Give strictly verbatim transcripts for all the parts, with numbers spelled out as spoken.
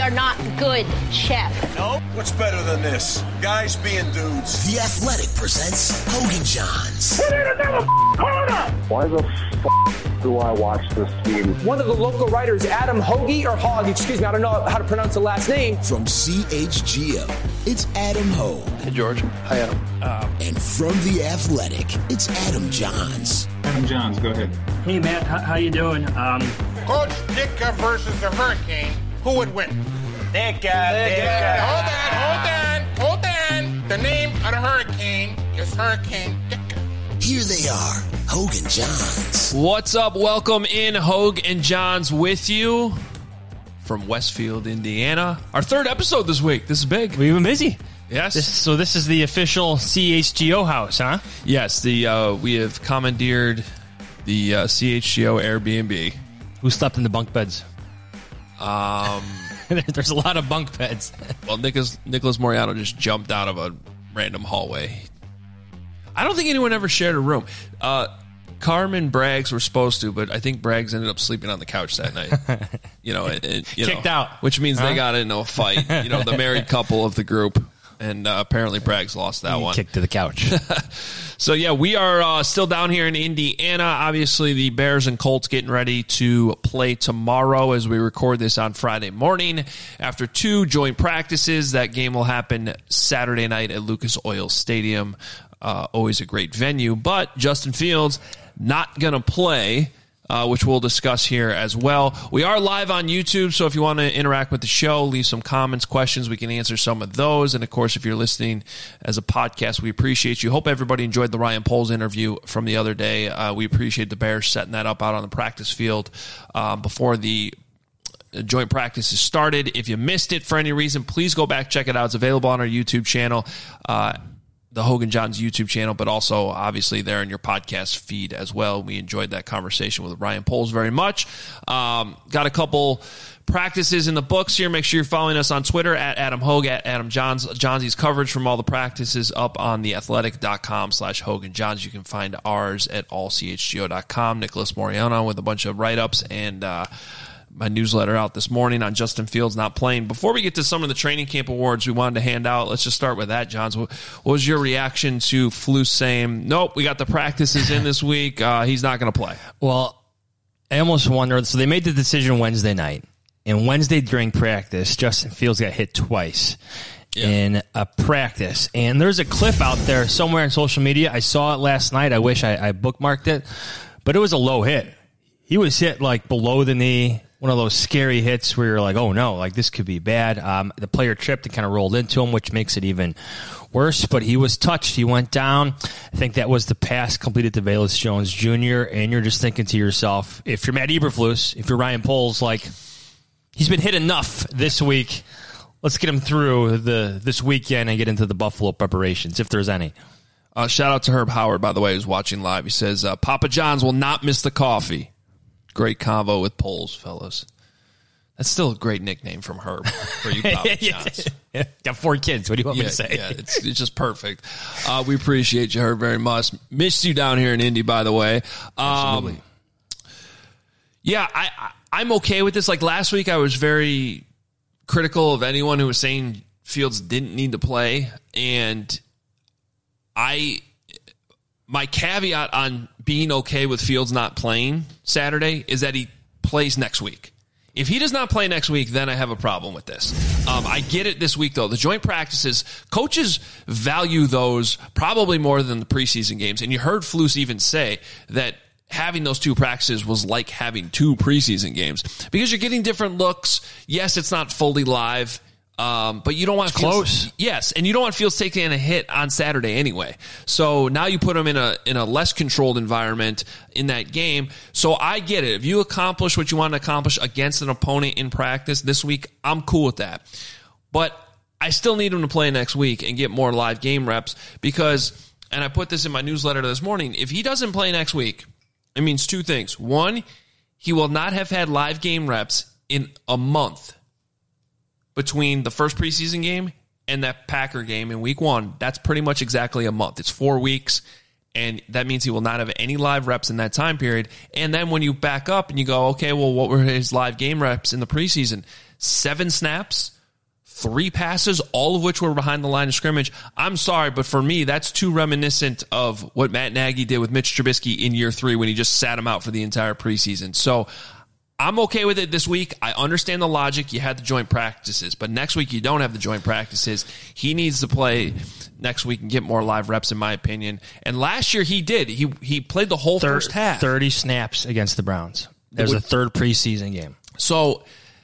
are not good chefs. No? What's better than this? Guys being dudes. The Athletic presents Hogan Johns. We need another corner! Why the f*** do I watch this team? One of the local writers, Adam Hoagie, or Hogg, excuse me, I don't know how to pronounce the last name. From C H G O, it's Adam Hogue. Hey, George. Hi, Adam. Uh, and from The Athletic, it's Adam Johns. Adam Johns, go ahead. Hey, Matt, how, how you doing? Um, Coach Ditka versus the Hurricane. Who would win? Ditka, Ditka. Hold on, hold on, hold on. The name of the Hurricane is Hurricane Ditka. Here they are, Hogue and Johns. What's up? Welcome in, Hogue and Johns with you from Westfield, Indiana. Our third episode this week. This is big. We've been busy. Yes. This, so this is the official C H G O house, huh? Yes. The uh, we have commandeered the uh, C H G O Airbnb. Who slept in the bunk beds? Um, There's a lot of bunk beds. Well, Nicholas, Nicholas Moriano just jumped out of a random hallway. I don't think anyone ever shared a room. Uh, Carmen Braggs were supposed to, but I think Braggs ended up sleeping on the couch that night. You know, and, and, you kicked know, out, which means huh? they got into a fight. You know, the married couple of the group, and uh, apparently Braggs lost that he one. Kicked to the couch. So yeah, we are uh, still down here in Indiana. Obviously, the Bears and Colts getting ready to play tomorrow as we record this on Friday morning. After two joint practices, that game will happen Saturday night at Lucas Oil Stadium. Uh, always a great venue, but Justin Fields not going to play, uh, which we'll discuss here as well. We are live on YouTube, so if you want to interact with the show, leave some comments, questions, we can answer some of those. And, of course, if you're listening as a podcast, we appreciate you. Hope everybody enjoyed the Ryan Poles interview from the other day. Uh, we appreciate the Bears setting that up out on the practice field uh, before the joint practices started. If you missed it for any reason, please go back, check it out. It's available on our YouTube channel. Uh the Hogue and Johns YouTube channel, but also obviously there in your podcast feed as well. We enjoyed that conversation with Ryan Poles very much. Um, got a couple practices in the books here. Make sure you're following us on Twitter at Adam Hogue, at Adam Johns. Johnsy's coverage from all the practices up on theathletic.com slash Hogue and Johns. You can find ours at all c h g o dot com. Nicholas Moriano with a bunch of write-ups and uh, my newsletter out this morning on Justin Fields not playing. Before we get to some of the training camp awards we wanted to hand out, let's just start with that, Johns. What was your reaction to Flus saying, nope, we got the practices in this week, uh, he's not going to play? Well, I almost wondered, so they made the decision Wednesday night, and Wednesday during practice, Justin Fields got hit twice yeah. in a practice. And there's a clip out there somewhere on social media. I saw it last night. I wish I, I bookmarked it, but it was a low hit. He was hit like below the knee. One of those scary hits where you're like, oh, no, like this could be bad. Um, the player tripped and kind of rolled into him, which makes it even worse. But he was touched. He went down. I think that was the pass completed to Velus Jones Junior And you're just thinking to yourself, if you're Matt Eberflus, if you're Ryan Poles, like, he's been hit enough this week. Let's get him through the this weekend and get into the Buffalo preparations, if there's any. Uh, shout out to Herb Howard, by the way, who's watching live. He says, uh, Papa John's will not miss the coffee. Great convo with Poles, fellas. That's still a great nickname from Herb for you, Papa Johns. Got four kids. What do you want yeah, me to say? Yeah, it's, it's just perfect. Uh, we appreciate you, Herb, very much. Missed you down here in Indy, by the way. Um, Absolutely. Yeah, I, I, I'm okay with this. Like last week, I was very critical of anyone who was saying Fields didn't need to play, and I... My caveat on being okay with Fields not playing Saturday is that he plays next week. If he does not play next week, then I have a problem with this. Um, I get it this week, though. The joint practices, coaches value those probably more than the preseason games. And you heard Flus even say that having those two practices was like having two preseason games because you're getting different looks. Yes, it's not fully live. Um, but you don't want it's Fields, close. Yes, and you don't want Fields taking a hit on Saturday anyway. So now you put him in a in a less controlled environment in that game. So I get it. If you accomplish what you want to accomplish against an opponent in practice this week, I'm cool with that. But I still need him to play next week and get more live game reps because, and I put this in my newsletter this morning, if he doesn't play next week, it means two things. One, he will not have had live game reps in a month. Between the first preseason game and that Packer game in week one, that's pretty much exactly a month. It's four weeks, and that means he will not have any live reps in that time period. And then when you back up and you go, okay, well, what were his live game reps in the preseason? seven snaps, three passes, all of which were behind the line of scrimmage. I'm sorry, but for me, that's too reminiscent of what Matt Nagy did with Mitch Trubisky in year three when he just sat him out for the entire preseason. So I'm okay with it this week. I understand the logic. You had the joint practices, but next week you don't have the joint practices. He needs to play next week and get more live reps, in my opinion. And last year he did. He he played the whole Thir- first half. thirty snaps against the Browns. There's a third preseason game. So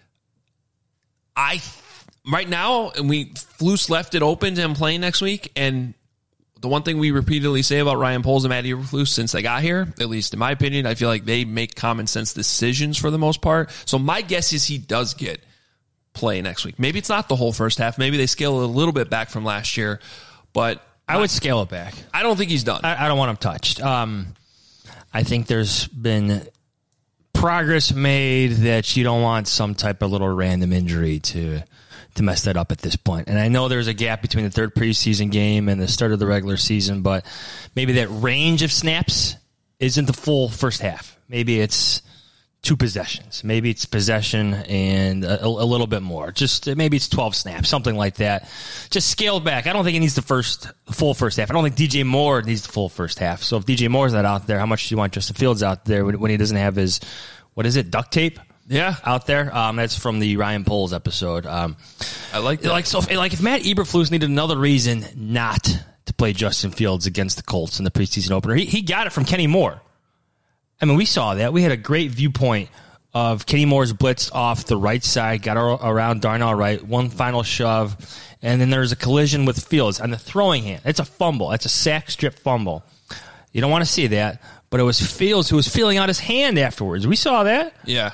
I right now, and we Flus left it open to him playing next week, and the one thing we repeatedly say about Ryan Poles and Matt Eberflus since they got here, at least in my opinion, I feel like they make common sense decisions for the most part. So my guess is he does get play next week. Maybe it's not the whole first half. Maybe they scale it a little bit back from last year, but I would scale it back. I don't think he's done. I, I don't want him touched. Um, I think there's been progress made that you don't want some type of little random injury to to mess that up at this point. And I know there's a gap between the third preseason game and the start of the regular season, but maybe that range of snaps isn't the full first half. Maybe it's two possessions. Maybe it's possession and a, a little bit more. Just maybe it's twelve snaps, something like that. Just scale back. I don't think he needs the first the full first half. I don't think D J Moore needs the full first half. So if D J Moore's not out there, how much do you want Justin Fields out there when, when he doesn't have his, what is it, duct tape? Yeah, out there. Um, that's from the Ryan Poles episode. Um, I like that. Like so, if, like if Matt Eberflus needed another reason not to play Justin Fields against the Colts in the preseason opener, he, he got it from Kenny Moore. I mean, we saw that. We had a great viewpoint of Kenny Moore's blitz off the right side, got around Darnell Wright, one final shove, and then there's a collision with Fields on the throwing hand. It's a fumble. It's a sack strip fumble. You don't want to see that, but it was Fields who was feeling out his hand afterwards. We saw that. Yeah.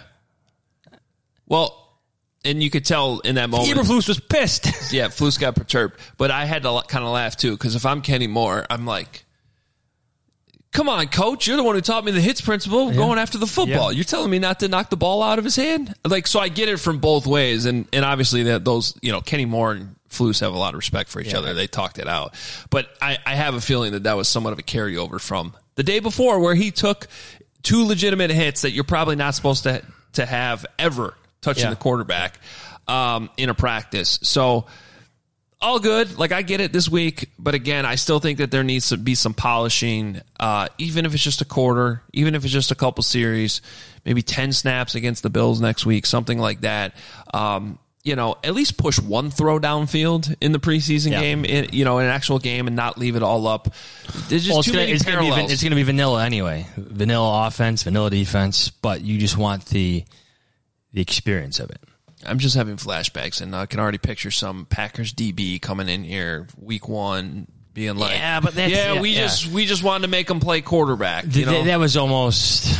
Well, and you could tell in that moment. Eberflus was pissed. Yeah, Flus got perturbed. But I had to kind of laugh, too, because if I'm Kenny Moore, I'm like, come on, coach. You're the one who taught me the hits principle, yeah. going after the football. Yeah. You're telling me not to knock the ball out of his hand? Like, so I get it from both ways. And, and obviously, that those, you know, Kenny Moore and Flus have a lot of respect for each yeah. other. They talked it out. But I, I have a feeling that that was somewhat of a carryover from the day before, where he took two legitimate hits that you're probably not supposed to, to have ever touching yeah. the quarterback um, in a practice. So all good. Like, I get it this week. But again, I still think that there needs to be some polishing, uh, even if it's just a quarter, even if it's just a couple series, maybe ten snaps against the Bills next week, something like that. Um, you know, at least push one throw downfield in the preseason yeah. game, in, you know, in an actual game, and not leave it all up. There's just well, too gonna, many it's parallels. Gonna be, it's going to be vanilla anyway. Vanilla offense, vanilla defense, but you just want the the experience of it. I'm just having flashbacks, and I can already picture some Packers D B coming in here week one, being like, "Yeah, but that's, yeah, yeah, we yeah. just we just wanted to make them play quarterback." You Th- know? That was almost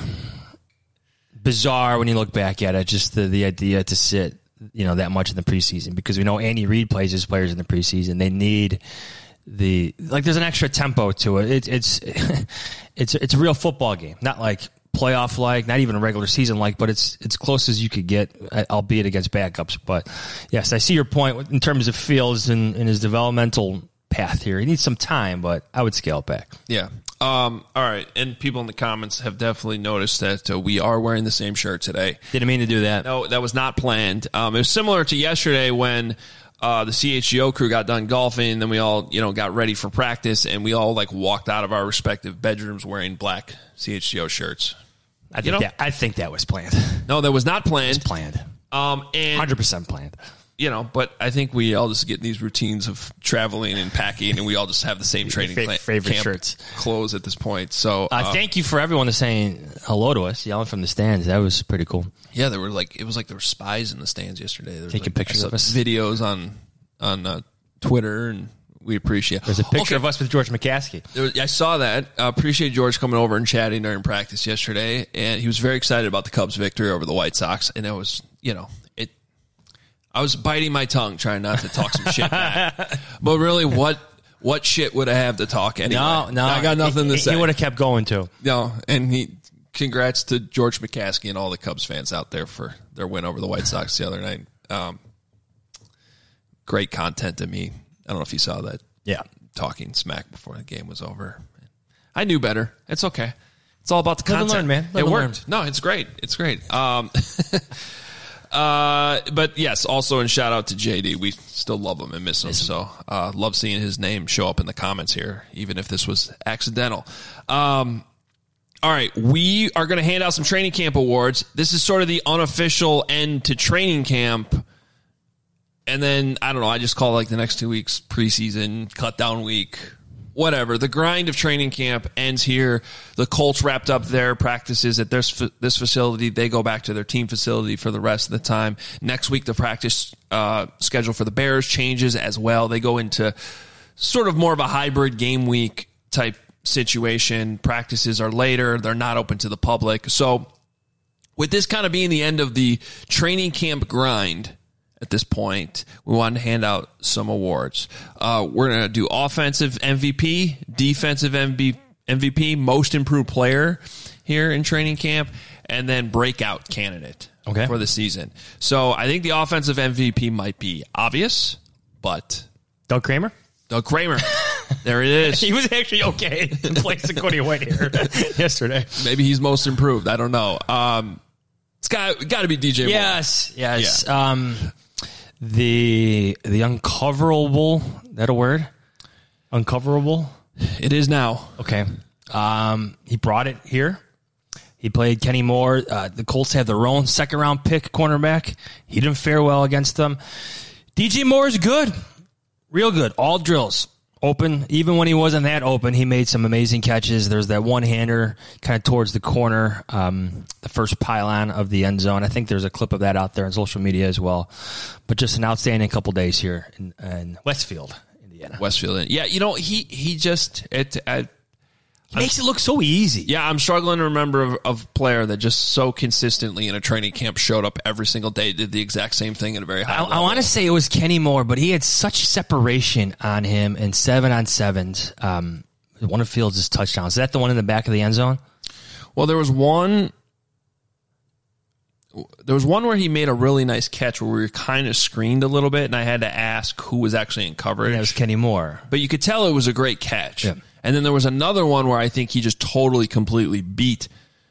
bizarre when you look back at it. Just the the idea to sit, you know, that much in the preseason, because we know Andy Reid plays his players in the preseason. They need the like. There's an extra tempo to it. it it's it's it's a real football game, not like playoff like, not even a regular season like, but it's it's close as you could get, albeit against backups. But yes, I see your point in terms of Fields and, and his developmental path here. He needs some time, but I would scale it back. Yeah. Um, all right. And people in the comments have definitely noticed that uh, we are wearing the same shirt today. Didn't mean to do that. No, that was not planned. Um, it was similar to yesterday when uh, the C H G O crew got done golfing, and then we all, you know, got ready for practice, and we all like walked out of our respective bedrooms wearing black C H G O shirts. I think, you know? that, I think that was planned. No, that was not planned. It was planned. Um, and one hundred percent planned. You know, but I think we all just get in these routines of traveling and packing, and we all just have the same training Fa- favorite camp shirts, clothes at this point. So, uh, uh, thank you for everyone that's saying hello to us, yelling from the stands. That was pretty cool. Yeah, there were like it was like there were spies in the stands yesterday. There was Taking like, pictures of us, videos on on uh, Twitter, and we appreciate. There's a picture okay. of us with George McCaskey. Was, I saw that. Uh, appreciate George coming over and chatting during practice yesterday, and he was very excited about the Cubs' victory over the White Sox. And it was, you know, it. I was biting my tongue trying not to talk some shit back, but really, what what shit would I have to talk anyway? No, no, I got nothing he, to say. He would have kept going too. No, and he. Congrats to George McCaskey and all the Cubs fans out there for their win over the White Sox the other night. Um, great content to me. I don't know if you saw that. Yeah. Talking smack before the game was over. I knew better. It's okay. It's all about the Live content. and learn, man. Live it and worked. Learn. No, it's great. It's great. Um, Uh, but yes, also in shout out to J D. We still love him and miss him. So uh, love seeing his name show up in the comments here, even if this was accidental. Um, all right, we are going to hand out some training camp awards. This is sort of the unofficial end to training camp. And then, I don't know, I just call like the next two weeks preseason, cut down week, whatever. The grind of training camp ends here. The Colts wrapped up their practices at this, this facility. They go back to their team facility for the rest of the time. Next week, the practice uh, schedule for the Bears changes as well. They go into sort of more of a hybrid game week type situation. Practices are later. They're not open to the public. So with this kind of being the end of the training camp grind, at this point, we wanted to hand out some awards. Uh, we're going to do offensive M V P, defensive M V P, most improved player here in training camp, and then breakout candidate okay. for the season. So I think the offensive M V P might be obvious, but... Doug Kramer? Doug Kramer. There it is. He was actually okay in place of Cody White here yesterday. Maybe he's most improved. I don't know. Um, it's got, got to be D J Moore. Yes, yes. Yeah. Um, the the uncoverable, that a word? Uncoverable? It is now. Okay. Um, he brought it here. He played Kenny Moore. Uh, the Colts have their own second-round pick cornerback. He didn't fare well against them. D J Moore is good. Real good. All drills. Open. Even when he wasn't that open, he made some amazing catches. There's that one-hander kind of towards the corner, um, the first pylon of the end zone. I think there's a clip of that out there on social media as well. But just an outstanding couple days here in, in Westfield, Indiana. Westfield. Yeah, you know, he he just... it. I, He makes it look so easy. Yeah, I'm struggling to remember of, of a player that just so consistently in a training camp showed up every single day, did the exact same thing at a very high I, level. I want to say it was Kenny Moore, but he had such separation on him in seven on sevens. Um, one of Fields' touchdowns. Is that the one in the back of the end zone? Well, there was one. There was one where he made a really nice catch where we were kind of screened a little bit, and I had to ask who was actually in coverage. That was Kenny Moore. But you could tell it was a great catch. Yeah. And then there was another one where I think he just totally, completely beat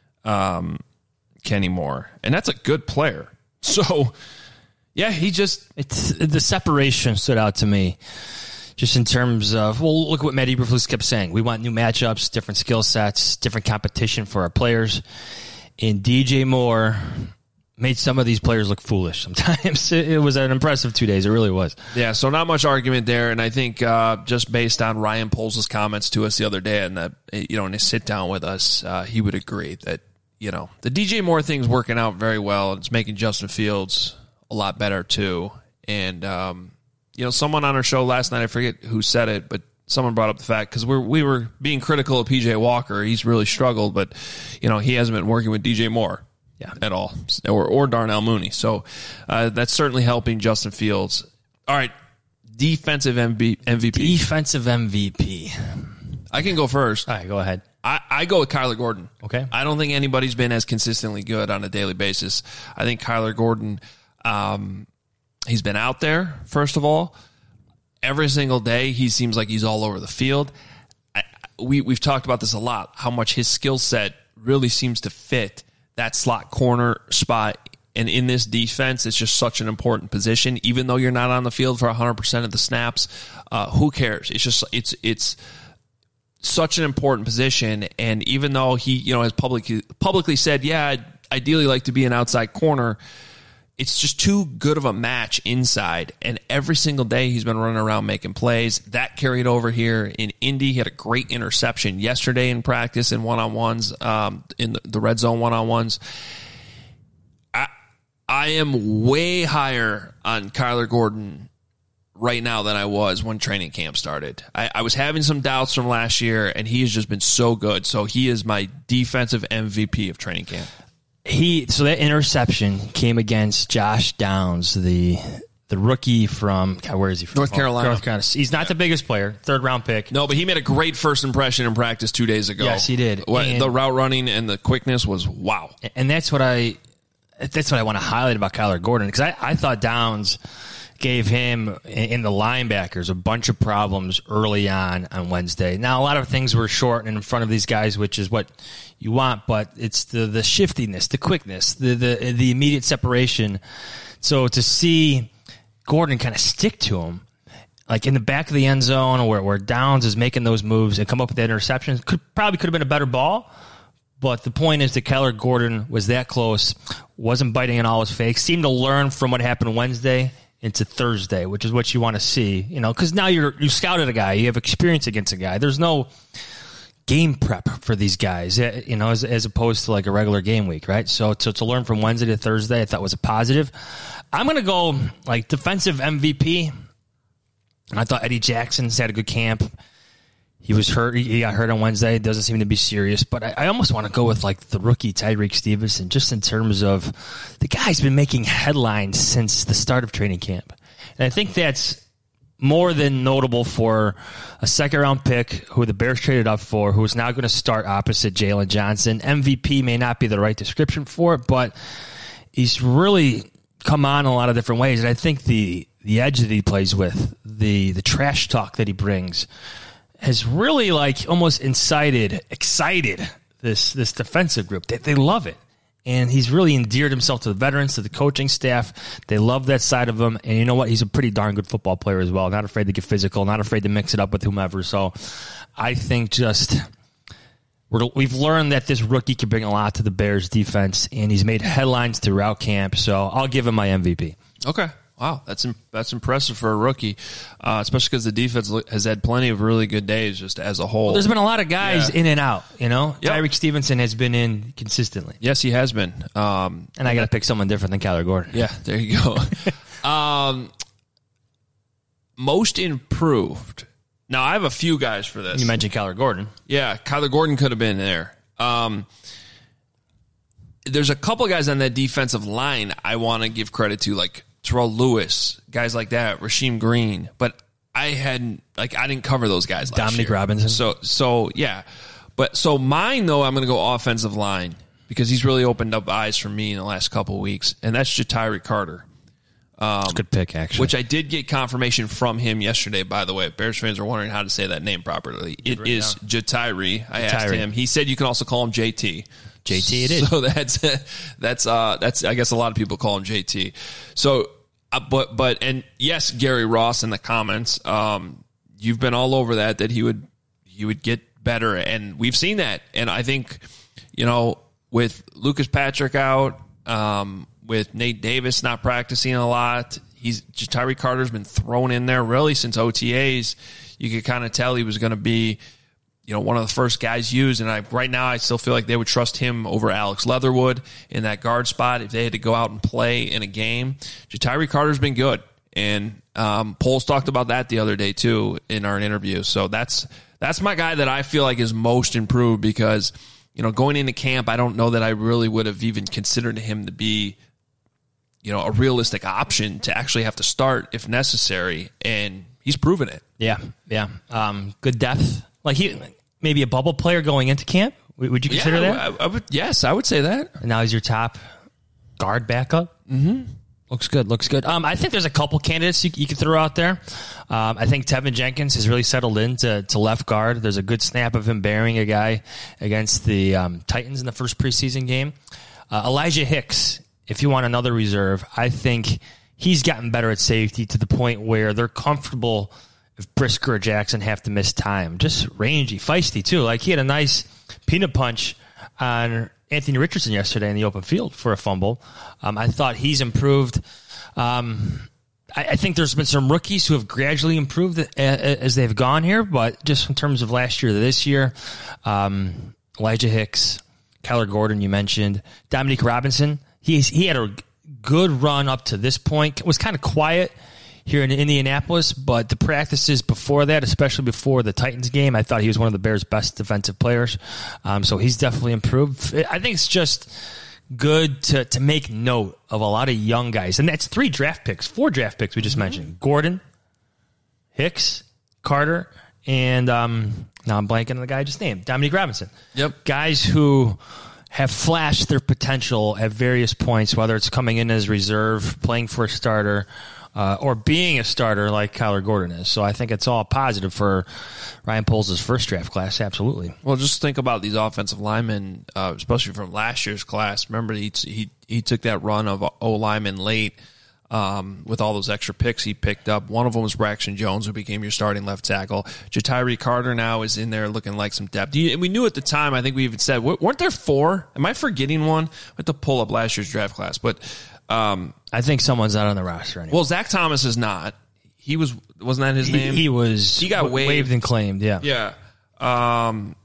um, Kenny Moore. And that's a good player. So, yeah, he just... It's, the separation stood out to me. Just in terms of, well, look what Matt Eberflus kept saying. We want new matchups, different skill sets, different competition for our players. And D J Moore made some of these players look foolish sometimes. It was an impressive two days. It really was. Yeah, so not much argument there. And I think uh, just based on Ryan Poles' comments to us the other day and that, you know, in his sit down with us, uh, he would agree that, you know, the D J Moore thing's working out very well. It's making Justin Fields a lot better too. And, um, you know, someone on our show last night, I forget who said it, but someone brought up the fact, because we we were being critical of P J Walker. He's really struggled, but, you know, he hasn't been working with D J Moore. Yeah, at all, or or Darnell Mooney. So uh, that's certainly helping Justin Fields. All right, defensive M V P. Defensive M V P. I can go first. All right, go ahead. I, I go with Kyler Gordon. Okay. I don't think anybody's been as consistently good on a daily basis. I think Kyler Gordon, um, he's been out there, first of all. Every single day, he seems like he's all over the field. I, we, we've talked about this a lot, how much his skill set really seems to fit that slot corner spot. And in this defense, it's just such an important position. Even though you're not on the field for one hundred percent of the snaps, uh, who cares? It's just it's it's such an important position. And even though he, you know, has publicly publicly said, yeah, I'd ideally like to be an outside corner, it's just too good of a match inside. And every single day he's been running around making plays. That carried over here in Indy. He had a great interception yesterday in practice in one-on-ones, um, in the, the red zone one-on-ones. I, I am way higher on Kyler Gordon right now than I was when training camp started. I, I was having some doubts from last year, and he has just been so good. So he is my defensive M V P of training camp. He so that interception came against Josh Downs, the the rookie from God, where is he from? North Carolina. North Carolina. He's not yeah. the biggest player, third round pick. No, but he made a great first impression in practice two days ago. Yes, he did. What, and, the route running and the quickness was wow. And that's what I that's what I want to highlight about Kyler Gordon, because I, I thought Downs gave him in the linebackers a bunch of problems early on on Wednesday. Now, a lot of things were short and in front of these guys, which is what you want, but it's the, the shiftiness, the quickness, the, the, the immediate separation. So to see Gordon kind of stick to him, like in the back of the end zone where, where Downs is making those moves and come up with that interception, could probably could have been a better ball. But the point is that Kyler Gordon was that close, wasn't biting on all his fakes, seemed to learn from what happened Wednesday into Thursday, which is what you want to see, you know, because now you're you scouted a guy, you have experience against a guy. There's no game prep for these guys, you know, as, as opposed to like a regular game week, right? So to, to learn from Wednesday to Thursday, I thought was a positive. I'm going to go like defensive M V P. I thought Eddie Jackson's had a good camp. He was hurt. He got hurt on Wednesday. It doesn't seem to be serious. But I, I almost want to go with like the rookie Tyreek Stevenson, just in terms of the guy's been making headlines since the start of training camp. And I think that's more than notable for a second-round pick who the Bears traded up for, who is now going to start opposite Jalen Johnson. M V P may not be the right description for it, but he's really come on in a lot of different ways. And I think the the edge that he plays with, the the trash talk that he brings, has really like almost incited, excited this this defensive group. They, they love it. And he's really endeared himself to the veterans, to the coaching staff. They love that side of him. And you know what? He's a pretty darn good football player as well. Not afraid to get physical, not afraid to mix it up with whomever. So I think just we're, we've learned that this rookie can bring a lot to the Bears defense, and he's made headlines throughout camp. So I'll give him my M V P. Okay. Wow, that's that's impressive for a rookie, uh, especially because the defense has had plenty of really good days just as a whole. Well, there's been a lot of guys yeah. in and out, you know? Yep. Tyreek Stevenson has been in consistently. Yes, he has been. Um, and I got to pick someone different than Kyler Gordon. Yeah, there you go. um, most improved. Now, I have a few guys for this. You mentioned Kyler Gordon. Yeah, Kyler Gordon could have been there. Um, there's a couple guys on that defensive line I want to give credit to, like Terrell Lewis, guys like that, Rasheem Green, but I hadn't like I didn't cover those guys last Dominique year. Robinson. So so yeah. But so mine though, I'm gonna go offensive line because he's really opened up eyes for me in the last couple of weeks, and that's Ja'Tyre Carter. Um, good pick, actually. Which I did get confirmation from him yesterday, by the way. Bears fans are wondering how to say that name properly. It right is Ja'Tyre. I asked him. He said you can also call him J T. J T it is. So that's that's uh that's I guess a lot of people call him J T. So uh, but but and yes, Gary Ross in the comments, um you've been all over that that he would he would get better, and we've seen that. And I think, you know, with Lucas Patrick out, um with Nate Davis not practicing a lot, he's Ja'Tyre Carter's been thrown in there really since O T As. You could kind of tell he was going to be, you know, one of the first guys used, and I right now I still feel like they would trust him over Alex Leatherwood in that guard spot if they had to go out and play in a game. Ja'Tyre Carter's been good, and um, Poles talked about that the other day too in our interview. So that's that's my guy that I feel like is most improved because, you know, going into camp, I don't know that I really would have even considered him to be, you know, a realistic option to actually have to start if necessary, and he's proven it. Yeah, yeah, um, good depth. Like he, maybe a bubble player going into camp. Would you consider yeah, that? I, I would, yes, I would say that. And now he's your top guard backup. Mm-hmm. Looks good. Looks good. Um, I think there's a couple candidates you, you could throw out there. Um, I think Tevin Jenkins has really settled into to left guard. There's a good snap of him burying a guy against the um, Titans in the first preseason game. Uh, Elijah Hicks, if you want another reserve, I think he's gotten better at safety to the point where they're comfortable if Brisker or Jackson have to miss time. Just rangy, feisty, too. Like, he had a nice peanut punch on Anthony Richardson yesterday in the open field for a fumble. Um, I thought he's improved. Um, I, I think there's been some rookies who have gradually improved as they've gone here, but just in terms of last year to this year, um, Elijah Hicks, Kyler Gordon, you mentioned, Dominique Robinson, he's, he had a good run up to this point. It was kind of quiet here in Indianapolis, but the practices before that, especially before the Titans game, I thought he was one of the Bears' best defensive players. Um, so he's definitely improved. I think it's just good to to make note of a lot of young guys. And that's three draft picks, four draft picks we just mm-hmm. mentioned. Gordon, Hicks, Carter, and um, now I'm blanking on the guy I just named, Dominique Robinson. Yep. Guys who have flashed their potential at various points, whether it's coming in as reserve, playing for a starter, uh, or being a starter like Kyler Gordon is. So I think it's all positive for Ryan Poles' first draft class. Absolutely. Well, just think about these offensive linemen, uh, especially from last year's class. Remember, he he he took that run of O linemen late. Um, with all those extra picks he picked up. One of them was Braxton Jones, who became your starting left tackle. Ja'Tyre Carter now is in there looking like some depth. And we knew at the time, I think we even said, weren't there four? Am I forgetting one? I have to pull up last year's draft class. But um, I think someone's not on the roster anymore. Well, Zach Thomas is not. He was, wasn't that his he, name? He was. He got waived. waived and claimed, yeah. Yeah. Um,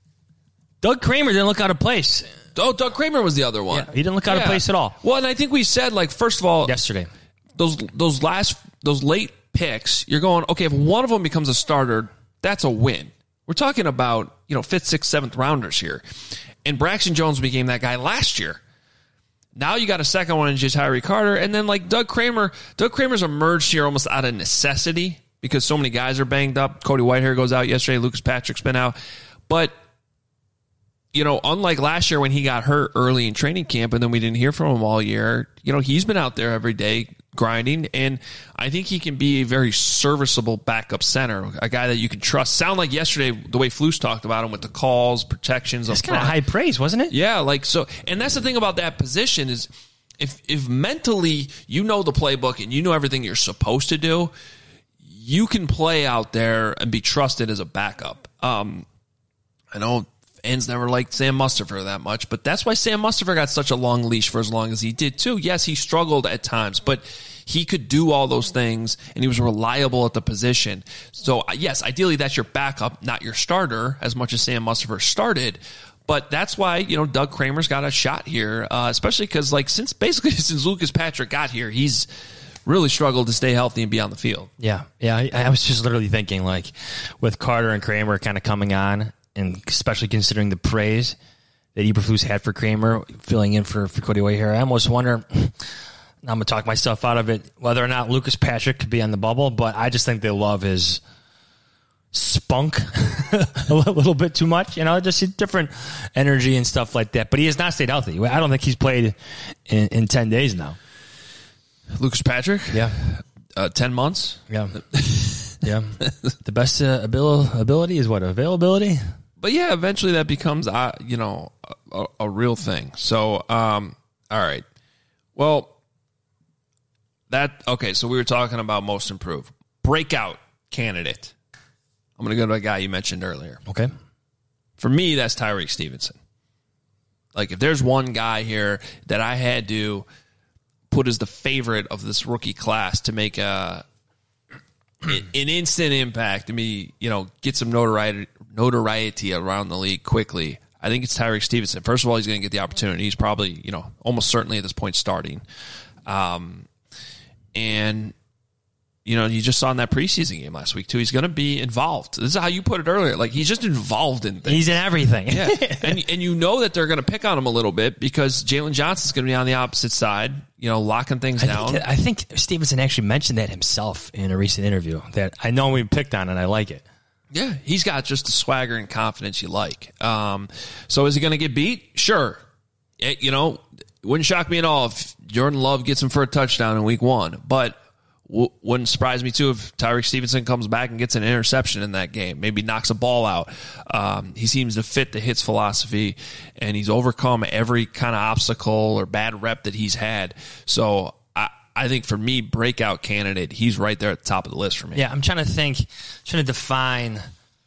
Doug Kramer didn't look out of place. Oh, Doug Kramer was the other one. Yeah, he didn't look out yeah. of place at all. Well, and I think we said, like, first of all, yesterday, those those last those late picks, you're going, okay, if one of them becomes a starter, that's a win. We're talking about, you know, fifth, sixth, seventh rounders here. And Braxton Jones became that guy last year. Now you got a second one in Ja'Tyre Carter, and then like Doug Kramer, Doug Kramer's emerged here almost out of necessity because so many guys are banged up. Cody Whitehair goes out yesterday, Lucas Patrick's been out. But you know, unlike last year when he got hurt early in training camp and then we didn't hear from him all year, you know, he's been out there every day grinding, and I think he can be a very serviceable backup center, a guy that you can trust. Sound like yesterday, the way Flus talked about him with the calls, protections. That's kind of high praise, wasn't it? Yeah, like so. And that's the thing about that position is if if mentally you know the playbook and you know everything you're supposed to do, you can play out there and be trusted as a backup. Um, I know fans never liked Sam Mustipher that much, but that's why Sam Mustipher got such a long leash for as long as he did too. Yes, he struggled at times, but he could do all those things, and he was reliable at the position. So, yes, ideally that's your backup, not your starter, as much as Sam Mustipher started. But that's why, you know, Doug Kramer's got a shot here, uh, especially because, like, since basically since Lucas Patrick got here, he's really struggled to stay healthy and be on the field. Yeah, yeah. I, I was just literally thinking, like, with Carter and Kramer kind of coming on, and especially considering the praise that Eberflus had for Kramer, filling in for, for Cody Whitehair, I almost wonder, I'm going to talk myself out of it, whether or not Lucas Patrick could be on the bubble, but I just think they love his spunk a little bit too much, you know, just different energy and stuff like that. But he has not stayed healthy. I don't think he's played in, in ten days now. Lucas Patrick? Yeah. Uh, ten months? Yeah. Yeah. The best uh, abil- ability is what? Availability? But yeah, eventually that becomes, uh, you know, a, a real thing. So, um, all right. Well, that, okay, so we were talking about most improved. Breakout candidate. I'm going to go to a guy you mentioned earlier. Okay. For me, that's Tyreek Stevenson. Like, if there's one guy here that I had to put as the favorite of this rookie class to make a an instant impact, to me, you know, get some notoriety, notoriety around the league quickly, I think it's Tyreek Stevenson. First of all, he's going to get the opportunity. He's probably, you know, almost certainly at this point starting. Um, and, you know, you just saw in that preseason game last week, too, he's going to be involved. This is how you put it earlier. Like, he's just involved in things. He's in everything. Yeah. And, and you know that they're going to pick on him a little bit because Jalen Johnson's going to be on the opposite side, you know, locking things I down. Think, I think Stevenson actually mentioned that himself in a recent interview, that I know we picked on and I like it. Yeah, he's got just the swagger and confidence you like. Um, so is he going to get beat? Sure. It, you know, it wouldn't shock me at all if Jordan Love gets him for a touchdown in week one. But w- wouldn't surprise me, too, if Tyreek Stevenson comes back and gets an interception in that game, maybe knocks a ball out. Um, he seems to fit the Hits philosophy, and he's overcome every kind of obstacle or bad rep that he's had. So I, I think for me, breakout candidate, he's right there at the top of the list for me. Yeah, I'm trying to think, trying to define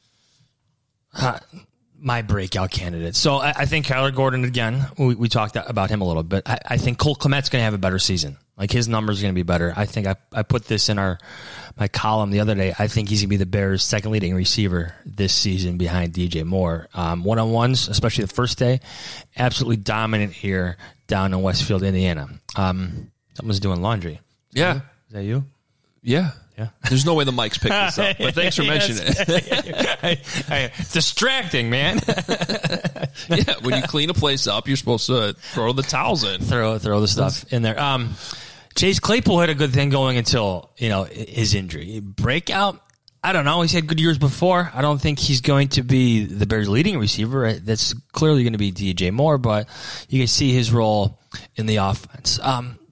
uh, my breakout candidate. So I, I think Kyler Gordon, again, we, we talked about him a little bit. I, I think Cole Kmet's going to have a better season. Like, his numbers are going to be better. I think I, I put this in our my column the other day. I think he's going to be the Bears' second leading receiver this season behind D J Moore. Um, one-on-ones, especially the first day, absolutely dominant here down in Westfield, Indiana. Um, someone's doing laundry. Yeah. Is that you? Yeah. Yeah. There's no way the mics picked this up, but thanks for mentioning it. I, I, distracting, man. Yeah, when you clean a place up, you're supposed to throw the towels in. Throw throw the stuff in there. Um, Chase Claypool had a good thing going until, you know, his injury. Breakout, I don't know. He's had good years before. I don't think he's going to be the Bears' leading receiver. That's clearly going to be D J Moore, but you can see his role in the offense. Um,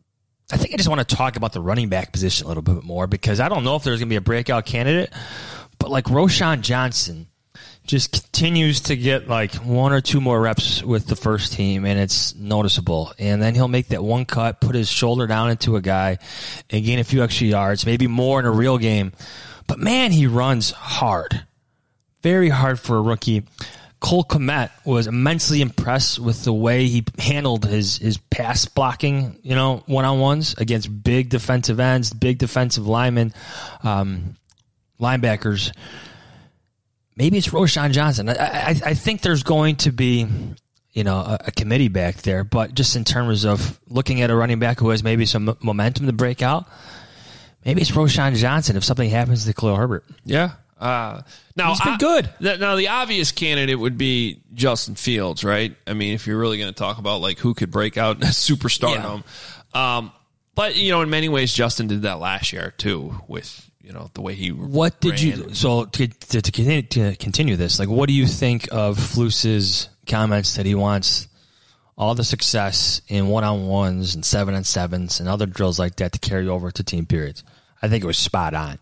I think I just want to talk about the running back position a little bit more because I don't know if there's going to be a breakout candidate, but like Roschon Johnson just continues to get like one or two more reps with the first team, and it's noticeable. And then he'll make that one cut, put his shoulder down into a guy, and gain a few extra yards, maybe more in a real game. But, man, he runs hard. Very hard for a rookie. Cole Kmet was immensely impressed with the way he handled his, his pass blocking, you know, one-on-ones against big defensive ends, big defensive linemen, um, linebackers. Maybe it's Roschon Johnson. I, I, I think there's going to be, you know, a, a committee back there, but just in terms of looking at a running back who has maybe some momentum to break out, maybe it's Roschon Johnson if something happens to Khalil Herbert. Yeah. Uh, now, He's been I, good. Th- now, the obvious candidate would be Justin Fields, right? I mean, if you're really going to talk about like who could break out superstardom. Yeah. Um, but, you know, in many ways, Justin did that last year, too, with, you know, the way he What did ran. you, so to, to, to, continue, to continue this, like, what do you think of Flus's comments that he wants all the success in one-on-ones and seven-on-sevens and other drills like that to carry over to team periods? I think it was spot on.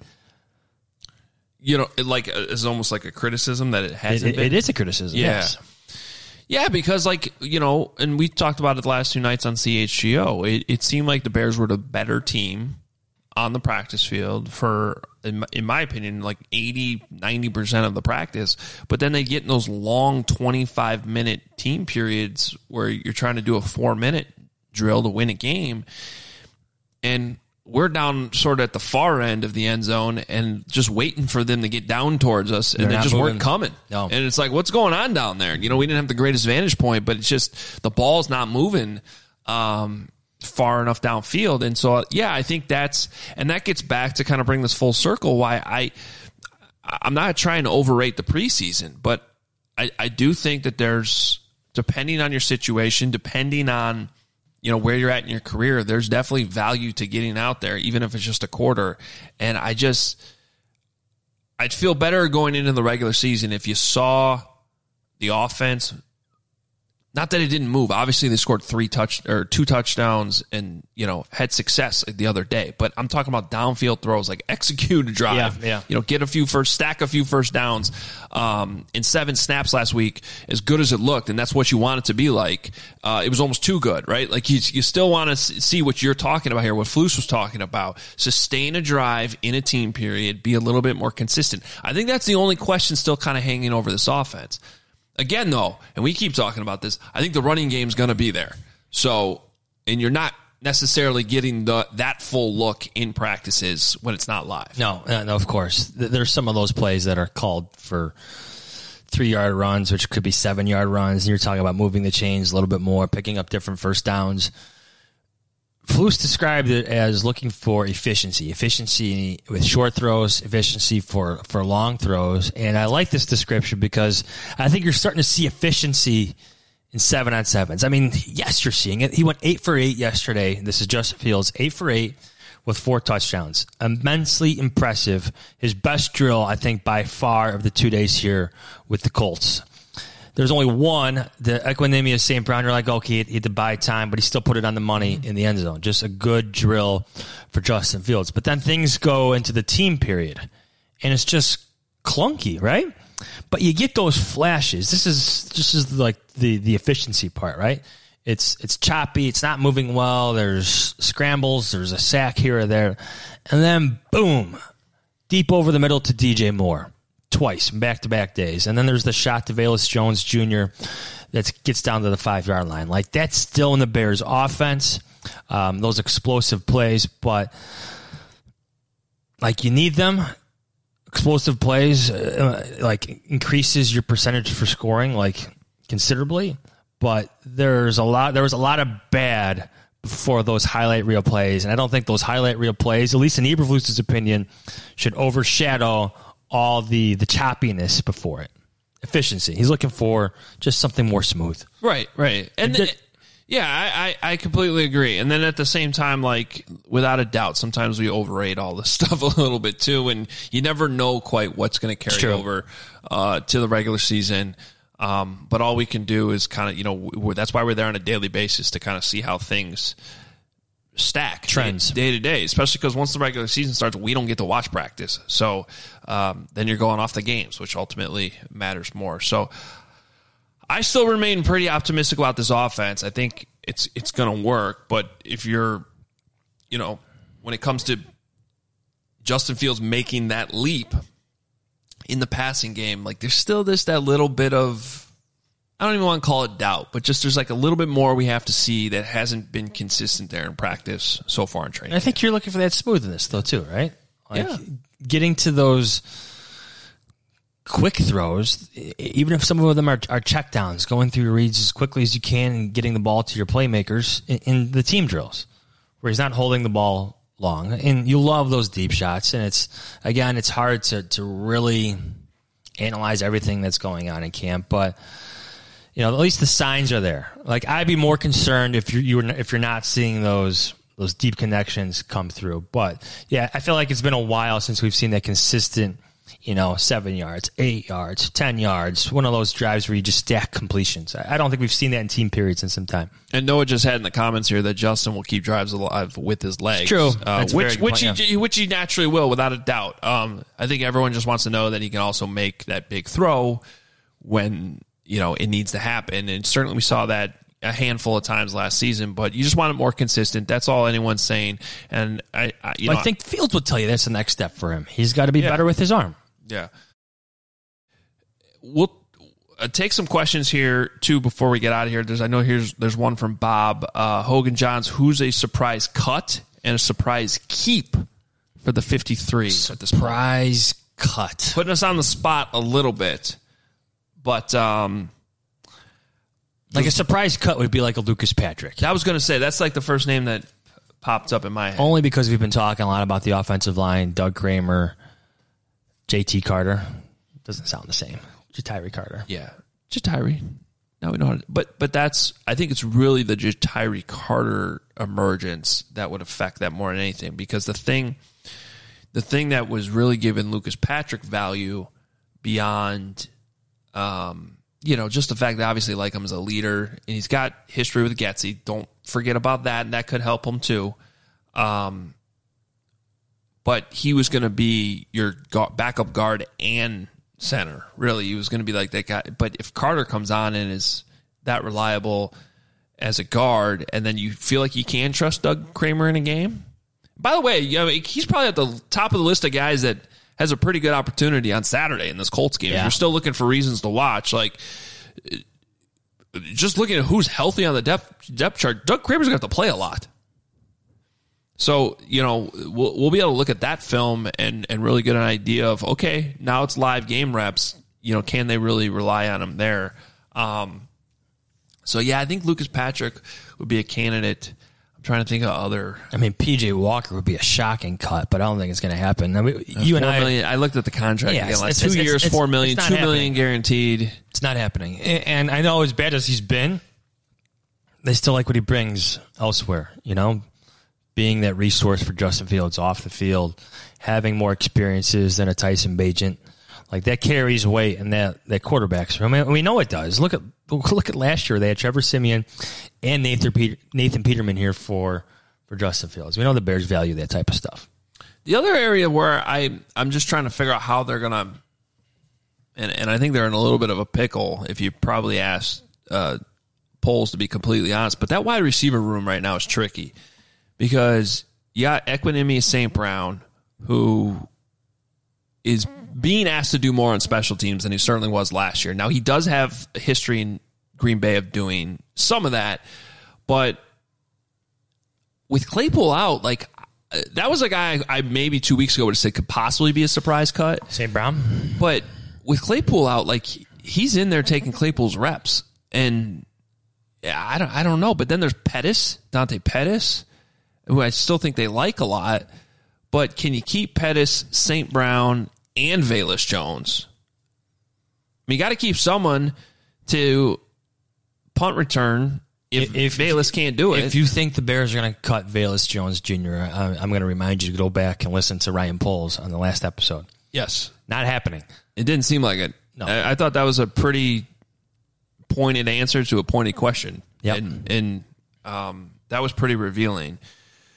You know, it like it's almost like a criticism that it hasn't it, it, been. It is a criticism, yeah. yes. Yeah, because, like, you know, and we talked about it the last two nights on C H G O, it, it seemed like the Bears were the better team on the practice field for, in my, in my opinion, like eighty, ninety percent of the practice. But then they get in those long twenty-five minute team periods where you're trying to do a four-minute drill to win a game. And we're down sort of at the far end of the end zone and just waiting for them to get down towards us, and They're they not just moving. weren't coming. No. And it's like, what's going on down there? You know, we didn't have the greatest vantage point, but it's just the ball's not moving um, far enough downfield. And so, yeah, I think that's, and that gets back to kind of bring this full circle why I, I'm not trying to overrate the preseason, but I, I do think that there's, depending on your situation, depending on, you know, where you're at in your career, there's definitely value to getting out there, even if it's just a quarter. And I just, I'd feel better going into the regular season if you saw the offense. Not that it didn't move. Obviously, they scored three touch or two touchdowns and, you know, had success the other day. But I'm talking about downfield throws, like execute a drive. Yeah, yeah. You know, get a few first, stack a few first downs. Um, in seven snaps last week, as good as it looked, and that's what you want it to be like. Uh, it was almost too good, right? Like you, you still want to see what you're talking about here, what Flus was talking about. Sustain a drive in a team period, be a little bit more consistent. I think that's the only question still kind of hanging over this offense. Again, though, and we keep talking about this, I think the running game's going to be there. So, and you're not necessarily getting the that full look in practices when it's not live. No, no, of course. There's some of those plays that are called for three-yard runs, which could be seven-yard runs. And you're talking about moving the chains a little bit more, picking up different first downs. Flus described it as looking for efficiency, efficiency with short throws, efficiency for, for long throws. And I like this description because I think you're starting to see efficiency in seven on sevens. I mean, yes, you're seeing it. He went eight for eight yesterday. This is Justin Fields, eight for eight with four touchdowns. Immensely impressive. His best drill, I think, by far of the two days here with the Colts. There's only one, the Equinemius Saint Brown. You're like, okay, he had to buy time, but he still put it on the money in the end zone. Just a good drill for Justin Fields. But then things go into the team period, and it's just clunky, right? But you get those flashes. This is this is like the the efficiency part, right? It's it's choppy. It's not moving well. There's scrambles. There's a sack here or there, and then boom, deep over the middle to D J Moore. Twice, back-to-back days. And then there's the shot to Velus Jones Junior that gets down to the five-yard line. Like, that's still in the Bears' offense, um, those explosive plays. But, like, you need them. Explosive plays, uh, like, increases your percentage for scoring, like, considerably. But there's a lot. there was a lot of bad before those highlight reel plays. And I don't think those highlight reel plays, at least in Eberflus's opinion, should overshadow all the, the choppiness before it. Efficiency. He's looking for just something more smooth. Right, right. And Just, yeah, I, I, I completely agree. And then at the same time, like, without a doubt, sometimes we overrate all this stuff a little bit too, and you never know quite what's going to carry over uh, to the regular season. Um, but all we can do is kind of, you know, we're, that's why we're there on a daily basis to kind of see how things stack trends day to day, especially because once the regular season starts, we don't get to watch practice. So um, then you're going off the games, which ultimately matters more. So I still remain pretty optimistic about this offense. I think it's it's going to work. But if you're, you know, when it comes to Justin Fields making that leap in the passing game, like there's still this that little bit of, I don't even want to call it doubt, but just there's like a little bit more we have to see that hasn't been consistent there in practice so far in training. I think you're looking for that smoothness, though, too, right? Like yeah. Getting to those quick throws, even if some of them are, are checkdowns, going through your reads as quickly as you can and getting the ball to your playmakers in, in the team drills, where he's not holding the ball long. And you love those deep shots. And it's, again, it's hard to, to really analyze everything that's going on in camp, but you know, at least the signs are there. Like I'd be more concerned if you're, you're if you're not seeing those those deep connections come through. But yeah, I feel like it's been a while since we've seen that consistent, you know, seven yards, eight yards, ten yards, one of those drives where you just stack completions. I don't think we've seen that in team periods in some time. And Noah just had in the comments here that Justin will keep drives alive with his legs. It's true, uh, which which point, he yeah. which he naturally will, without a doubt. Um, I think everyone just wants to know that he can also make that big throw when, you know, it needs to happen. And certainly we saw that a handful of times last season, but you just want it more consistent. That's all anyone's saying. And I, I you well, know, I think Fields would tell you that's the next step for him. He's got to be yeah. better with his arm. Yeah. We'll uh, take some questions here too before we get out of here. There's, I know here's, there's one from Bob uh, Hogan Johns. Who's a surprise cut and a surprise keep for the fifty-three at this point? Surprise cut. Putting us on the spot a little bit. But um, like a surprise cut would be like a Lucas Patrick. I was going to say, that's like the first name that popped up in my head. Only because we've been talking a lot about the offensive line, Doug Kramer, J T Carter. Doesn't sound the same. Jatiri Carter. Yeah. Jatiri. Now we know how to, but, but that's, I think it's really the Jatiri Carter emergence that would affect that more than anything, because the thing, the thing that was really giving Lucas Patrick value beyond, Um, you know, just the fact that obviously like him as a leader, and he's got history with Getsy. Don't forget about that, and that could help him too. Um, but he was going to be your backup guard and center. Really, he was going to be like that guy. But if Carter comes on and is that reliable as a guard, and then you feel like you can trust Doug Kramer in a game. By the way, you know, he's probably at the top of the list of guys that has a pretty good opportunity on Saturday in this Colts game. Yeah. If you're still looking for reasons to watch, like just looking at who's healthy on the depth depth chart, Doug Kramer's going to have to play a lot. So, you know, we'll, we'll be able to look at that film and, and really get an idea of, okay, now it's live game reps. You know, can they really rely on him there? Um, so, yeah, I think Lucas Patrick would be a candidate. I'm trying to think of other. I mean, P J Walker would be a shocking cut, but I don't think it's going to happen. I mean, you and I, million, I looked at the contract yeah, again. Like it's, two it's, years, it's, four million, it's two happening. million guaranteed. It's not happening. And I know as bad as he's been, they still like what he brings elsewhere, you know, being that resource for Justin Fields off the field, having more experiences than a Tyson Bagent. Like that carries weight in that, that quarterback's room. I mean, we know it does. Look at look at last year. They had Trevor Siemian and Nathan Peter, Nathan Peterman here for, for Justin Fields. We know the Bears value that type of stuff. The other area where I, I'm just trying to figure out how they're going to, and, and I think they're in a little bit of a pickle if you probably ask uh, Poles to be completely honest, but that wide receiver room right now is tricky because you got Equinemius Saint Brown, who is being asked to do more on special teams than he certainly was last year. Now, he does have a history in Green Bay of doing some of that, but with Claypool out, like that was a guy I maybe two weeks ago would have said could possibly be a surprise cut. Saint Brown? But with Claypool out, like he's in there taking Claypool's reps. And yeah, I don't I don't know. But then there's Pettis, Dante Pettis, who I still think they like a lot. But can you keep Pettis, Saint Brown, and Velus Jones? I mean, you got to keep someone to punt return if, if Velus can't do it. If you think the Bears are going to cut Velus Jones Junior, I, I'm going to remind you to go back and listen to Ryan Poles on the last episode. Yes. Not happening. It didn't seem like it. No. I, I thought that was a pretty pointed answer to a pointed question. Yep. And, and um, that was pretty revealing.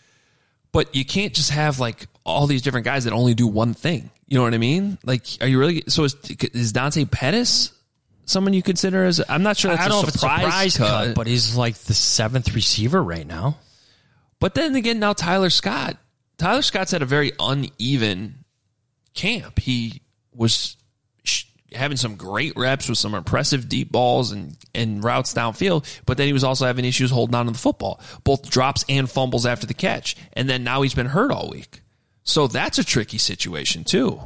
But you can't just have like all these different guys that only do one thing. You know what I mean? Like, are you really? So is, is Dante Pettis someone you consider as? I'm not sure. That's I don't a know if it's a surprise surprise cut, cut, but he's like the seventh receiver right now. But then again, now Tyler Scott. Tyler Scott's had a very uneven camp. He was sh- having some great reps with some impressive deep balls and, and routes downfield, but then he was also having issues holding on to the football, both drops and fumbles after the catch. And then now he's been hurt all week. So that's a tricky situation too.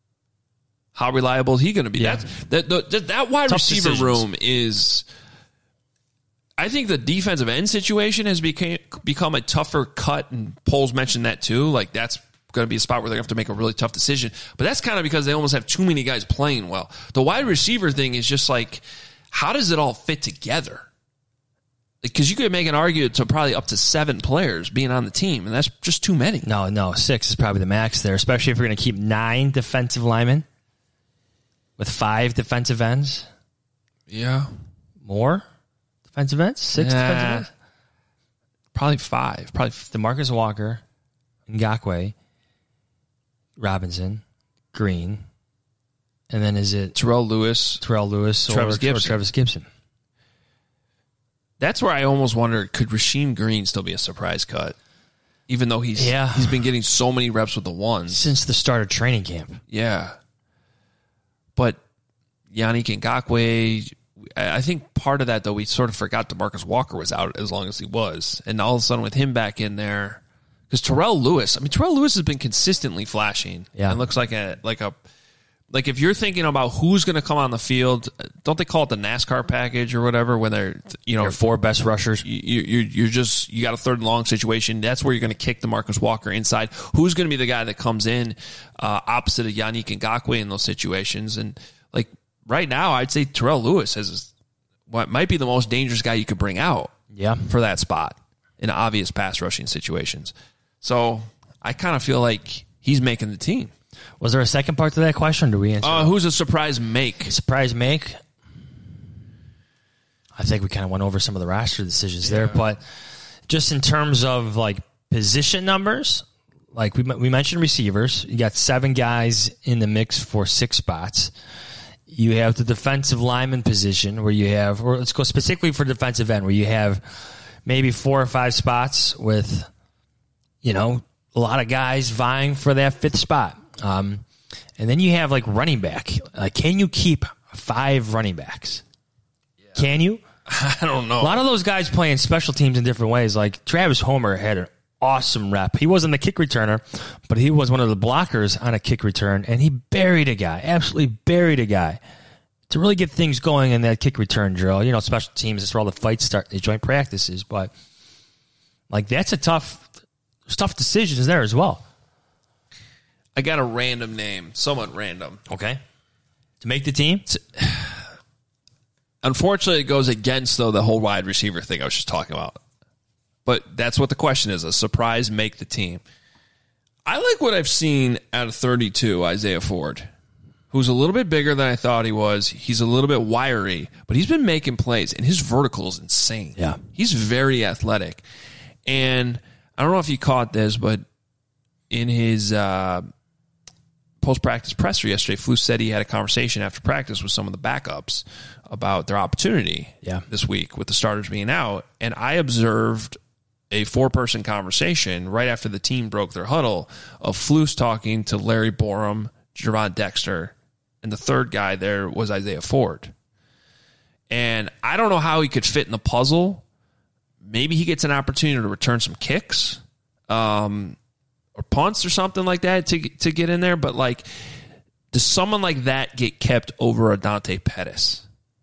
How reliable is he going to be? Yeah. That, that, that, that wide Tough receiver decisions. room is... I think the defensive end situation has became, become a tougher cut, and Poles mentioned that too. Like, that's going to be a spot where they're going to have to make a really tough decision. But that's kind of because they almost have too many guys playing well. The wide receiver thing is just like, how does it all fit together? Because you could make an argument to probably up to seven players being on the team, and that's just too many. No, no, six is probably the max there, especially if you're going to keep nine defensive linemen with five defensive ends. Yeah. More defensive ends? Six Nah. defensive ends? Probably five. Probably f- DeMarcus Walker, Ngakoue, Robinson, Green, and then is it Terrell Lewis. Terrell Lewis or Travis or Gibson. Travis Gibson? That's where I almost wonder, could Rasheem Green still be a surprise cut? Even though he's Yeah. he's been getting so many reps with the ones. Since the start of training camp. Yeah. But Yannick Ngakoue, I I think part of that, though, we sort of forgot DeMarcus Walker was out as long as he was. And all of a sudden with him back in there, because Terrell Lewis, I mean, Terrell Lewis has been consistently flashing. Yeah. And looks like a, like a, like if you're thinking about who's going to come on the field, don't they call it the NASCAR package or whatever, when they're, you know, Your four best rushers. you, you, you're just, you got a third and long situation. That's where you're going to kick DeMarcus Walker inside. Who's going to be the guy that comes in uh, opposite of Yannick Ngakoue in those situations? And like right now, I'd say Terrell Lewis has what might be the most dangerous guy you could bring out Yeah. for that spot in obvious pass rushing situations. So I kind of feel like he's making the team. Was there a second part to that question? Or do we answer? Uh, who's a surprise make? Surprise make? I think we kind of went over some of the roster decisions there, but just in terms of like position numbers, like we we mentioned receivers, you got seven guys in the mix for six spots. You have the defensive lineman position where you have, or let's go specifically for defensive end, where you have maybe four or five spots with, you know, a lot of guys vying for that fifth spot. Um, and then you have like running back. Like, can you keep five running backs? Can you? I don't know. A lot of those guys playing special teams in different ways. Like Travis Homer had an awesome rep. He wasn't the kick returner, but he was one of the blockers on a kick return, and he buried a guy, absolutely buried a guy. To really get things going in that kick return drill, you know, special teams, that's where all the fights start, the joint practices. But like, that's a tough, tough decisions there as well. I got a random name, somewhat random. Okay. To make the team? Unfortunately, it goes against, though, the whole wide receiver thing I was just talking about. But that's what the question is, a surprise make the team. I like what I've seen out of thirty-two, Isaiah Ford, who's a little bit bigger than I thought he was. He's a little bit wiry, but he's been making plays, and his vertical is insane. Yeah. He's very athletic. And I don't know if you caught this, but in his uh, post-practice presser yesterday, Flus said he had a conversation after practice with some of the backups about their opportunity Yeah. this week with the starters being out. And I observed a four-person conversation right after the team broke their huddle of Flus talking to Larry Borum, Gervon Dexter, and the third guy there was Isaiah Ford. And I don't know how he could fit in the puzzle. Maybe he gets an opportunity to return some kicks um, or punts or something like that to to get in there. But, like, does someone like that get kept over a Dante Pettis?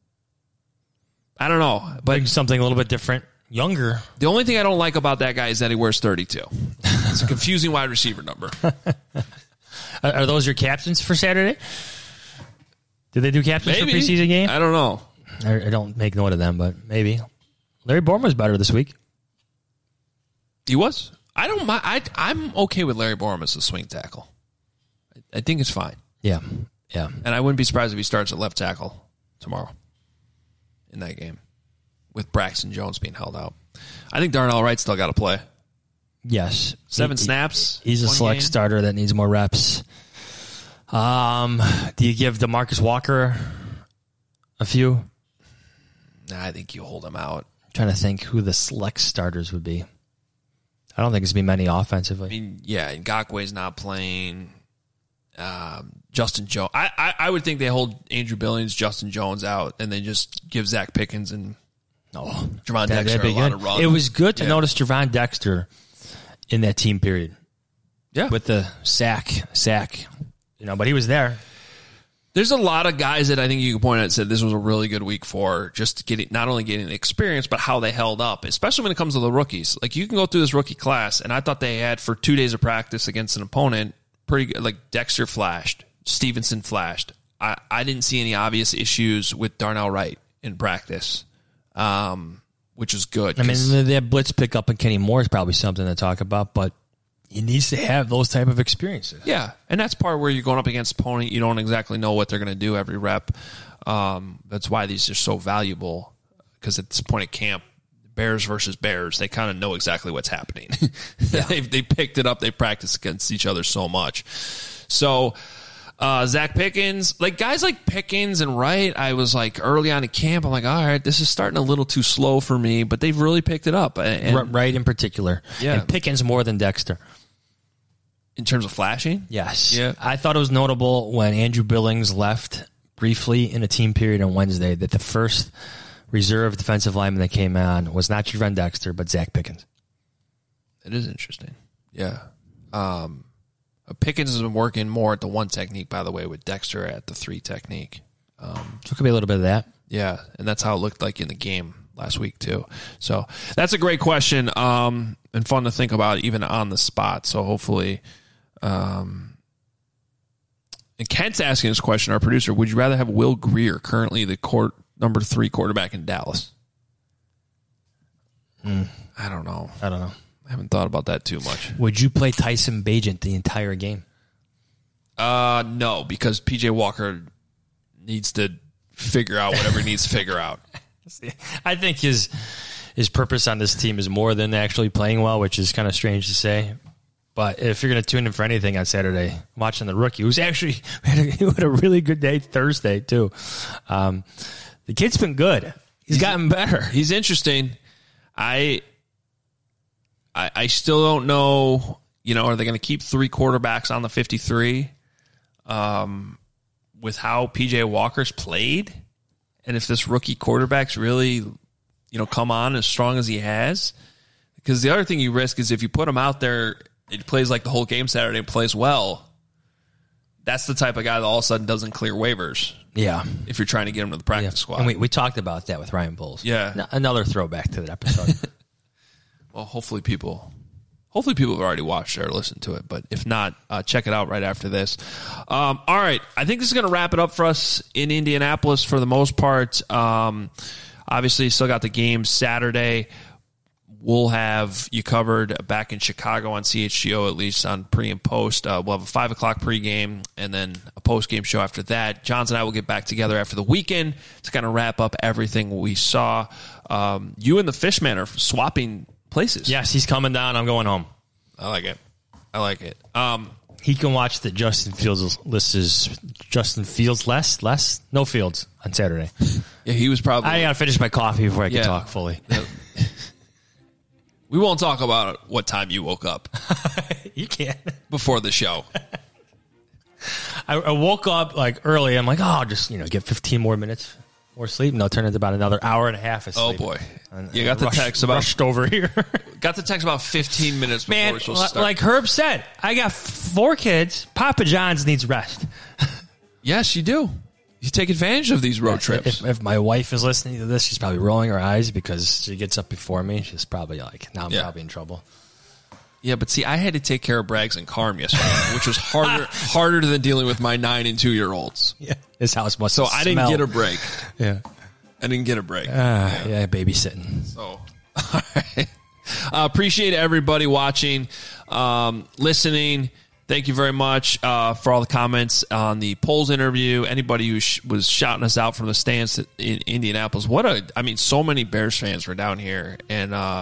I don't know. But Like something a little bit different, younger. the only thing I don't like about that guy is that he wears thirty-two. It's a confusing wide receiver number. Are, are those your captains for Saturday? Did they do captains Maybe. for preseason game? I don't know. I, I don't make note of them, but maybe. Larry Borum was better this week. He was. I don't mind. I, I'm okay with Larry Borum as a swing tackle. I, I think it's fine. Yeah, yeah. And I wouldn't be surprised if he starts at left tackle tomorrow in that game with Braxton Jones being held out. I think Darnell Wright still got to play. Yes. Seven he, snaps. He's a select game. starter that needs more reps. Um, do you give DeMarcus Walker a few? Nah, I think you hold him out. I'm trying to think who the select starters would be. I don't think it's going to be many offensively. I mean, yeah, Ngakwe's not playing. Um, Justin Jones. I, I, I would think they hold Andrew Billings, Justin Jones out, and they just give Zach Pickens and oh, Javon that, Dexter a lot good. of run. It was good to yeah. notice Javon Dexter in that team period. Yeah. With the sack, sack, you know, but he was there. There's a lot of guys that I think you can point out and said this was a really good week for just getting, not only getting the experience, but how they held up, especially when it comes to the rookies. Like, you can go through this rookie class, and I thought they had, for two days of practice against an opponent, pretty good. Like, Dexter flashed. Stevenson flashed. I, I didn't see any obvious issues with Darnell Wright in practice, um, which is good. I mean, that blitz pickup and Kenny Moore is probably something to talk about, but he needs to have those type of experiences. Yeah, and that's part where you're going up against an opponent. You don't exactly know what they're going to do every rep. Um, that's why these are so valuable, because at this point at camp, Bears versus Bears, they kind of know exactly what's happening. Yeah. they they picked it up. They practice against each other so much. So uh, Zach Pickens, like guys like Pickens and Wright, I was like early on in camp, I'm like, all right, this is starting a little too slow for me, but they've really picked it up. And, Wright in particular. Yeah. And Pickens more than Dexter. In terms of flashing? Yes. Yeah. I thought it was notable when Andrew Billings left briefly in a team period on Wednesday that the first reserve defensive lineman that came on was not Javon Dexter, but Zach Pickens. It is interesting. Yeah. Um, Pickens has been working more at the one technique, by the way, with Dexter at the three technique. Um, so it could be a little bit of that. Yeah, and that's how it looked like in the game last week, too. So that's a great question um, and fun to think about even on the spot. So hopefully... Um, and Kent's asking this question, our producer, would you rather have Will Grier, currently the court number three quarterback in Dallas? Mm. I don't know. I don't know. I haven't thought about that too much. Would you play Tyson Bagent the entire game? Uh, no, because P J Walker needs to figure out whatever he needs to figure out. I think his his purpose on this team is more than actually playing well, which is kind of strange to say. But if you're going to tune in for anything on Saturday, watching the rookie, who's actually had a, he had a really good day Thursday, too. Um, the kid's been good. He's, he's gotten better. He's interesting. I, I I still don't know, you know, are they going to keep three quarterbacks on the fifty-three um, with how P J Walker's played? And if this rookie quarterback's really, you know, come on as strong as he has? Because the other thing you risk is if you put him out there, it plays like the whole game Saturday and plays well, that's the type of guy that all of a sudden doesn't clear waivers. Yeah. If you're trying to get him to the practice yeah. squad. And we, we talked about that with Ryan Bowles. Yeah. N- another throwback to that episode. Well, hopefully people hopefully people have already watched it or listened to it. But if not, uh, check it out right after this. Um, all right. I think this is going to wrap it up for us in Indianapolis for the most part. Um, obviously, still got the game Saturday. We'll have you covered back in Chicago on C H G O, at least on pre and post. Uh, we'll have a five o'clock pregame and then a post-game show after that. Johns and I will get back together after the weekend to kind of wrap up everything we saw. Um, you and the Fishman are swapping places. Yes, he's coming down. I'm going home. I like it. I like it. Um, he can watch the Justin Fields list is Justin Fields less less no Fields on Saturday. Yeah, he was probably. I got to finish my coffee before I can Yeah. talk fully. We won't talk about what time you woke up. You can't. Before the show. I, I woke up like early. I'm like, oh, I'll just you know get fifteen more minutes more sleep. No, turn into about another hour and a half of Oh, sleep. boy. And, You got the rushed, text about- rushed over here. Got the text about fifteen minutes before Man, we're supposed to start. like Herb said, I got four kids. Papa John's needs rest. Yes, you do. You take advantage of these road trips. If, if my wife is listening to this, she's probably rolling her eyes because she gets up before me. She's probably like, now I'm Yeah. probably in trouble. Yeah, but see, I had to take care of Braggs and Carm yesterday, which was harder harder than dealing with my nine and two year olds. Yeah, this house must. So I didn't smell. get a break. Yeah, I didn't get a break. uh, yeah. yeah, babysitting. So, all right. Uh, appreciate everybody watching, um, listening. Thank you very much uh, for all the comments on the polls interview. Anybody who sh- was shouting us out from the stands in Indianapolis. What a, I mean, so many Bears fans were down here, and uh,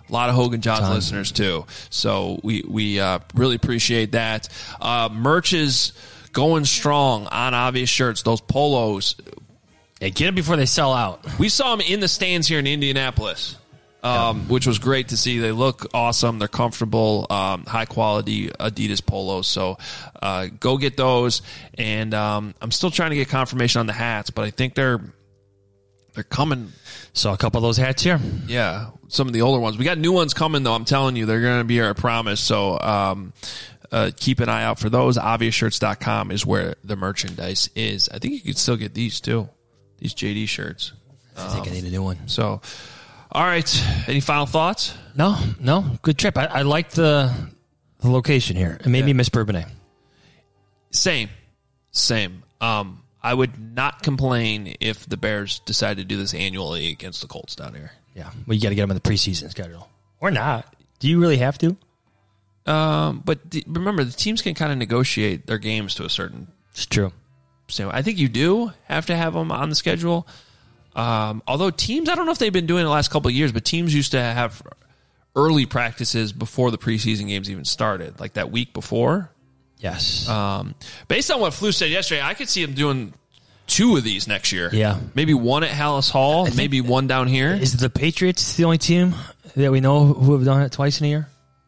A lot of Hogan Johns Ton. listeners, too. So we, we uh, really appreciate that. Uh, merch is going strong on Obvious Shirts, those polos. Yeah, get them before they sell out. We saw them in the stands here in Indianapolis, um, yeah. which was great to see. They look awesome. They're comfortable, um, high-quality Adidas polos. So uh, go get those. And um, I'm still trying to get confirmation on the hats, but I think they're they're coming. Saw a couple of those hats here. Yeah, some of the older ones. We got new ones coming, though. I'm telling you, they're going to be here, I promise. So um, uh, keep an eye out for those. obvious shirts dot com is where the merchandise is. I think you could still get these, too. These J D shirts. I think um, I need a new one. So, all right. Any final thoughts? No, no. Good trip. I, I like the the location here. It made yeah. me miss Bourbonnais. Same. Same. Um, I would not complain if the Bears decided to do this annually against the Colts down here. Yeah. Well, you got to get them in the preseason schedule. Or not. Do you really have to? Um, but the, remember, the teams can kind of negotiate their games to a certain... It's true. So I think you do have to have them on the schedule. Um, although teams, I don't know if they've been doing it the last couple of years, but teams used to have early practices before the preseason games even started, like that week before. Yes. Um, based on what Flu said yesterday, I could see them doing two of these next year. Yeah. Maybe one at Hallis Hall, maybe one down here. Is the Patriots the only team that we know who have done it twice in a year?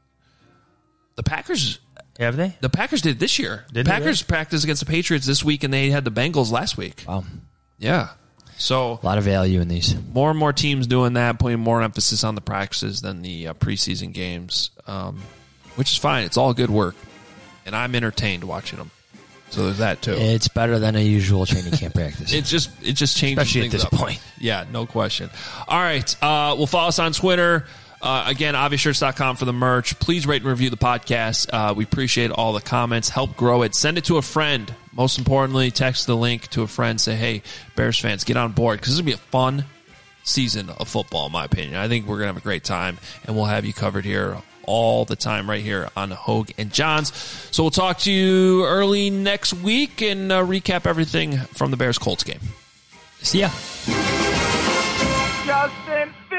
The Packers... Have they? The Packers did this year. Did the Packers practiced against the Patriots this week, and they had the Bengals last week. Wow. Yeah. So a lot of value in these. More and more teams doing that, putting more emphasis on the practices than the uh, preseason games, um, which is fine. It's all good work, and I'm entertained watching them. So there's that too. It's better than a usual training camp practice. It just it just changes especially things at this up. point. Yeah, no question. All right, uh, we'll follow us on Twitter. Uh, again, obvious shirts dot com for the merch. Please rate and review the podcast. Uh, we appreciate all the comments. Help grow it. Send it to a friend. Most importantly, text the link to a friend. Say, hey, Bears fans, get on board, because this will be a fun season of football, in my opinion. I think we're going to have a great time, and we'll have you covered here all the time right here on Hogue and Johns. So we'll talk to you early next week and uh, recap everything from the Bears-Colts game. See ya. Justin.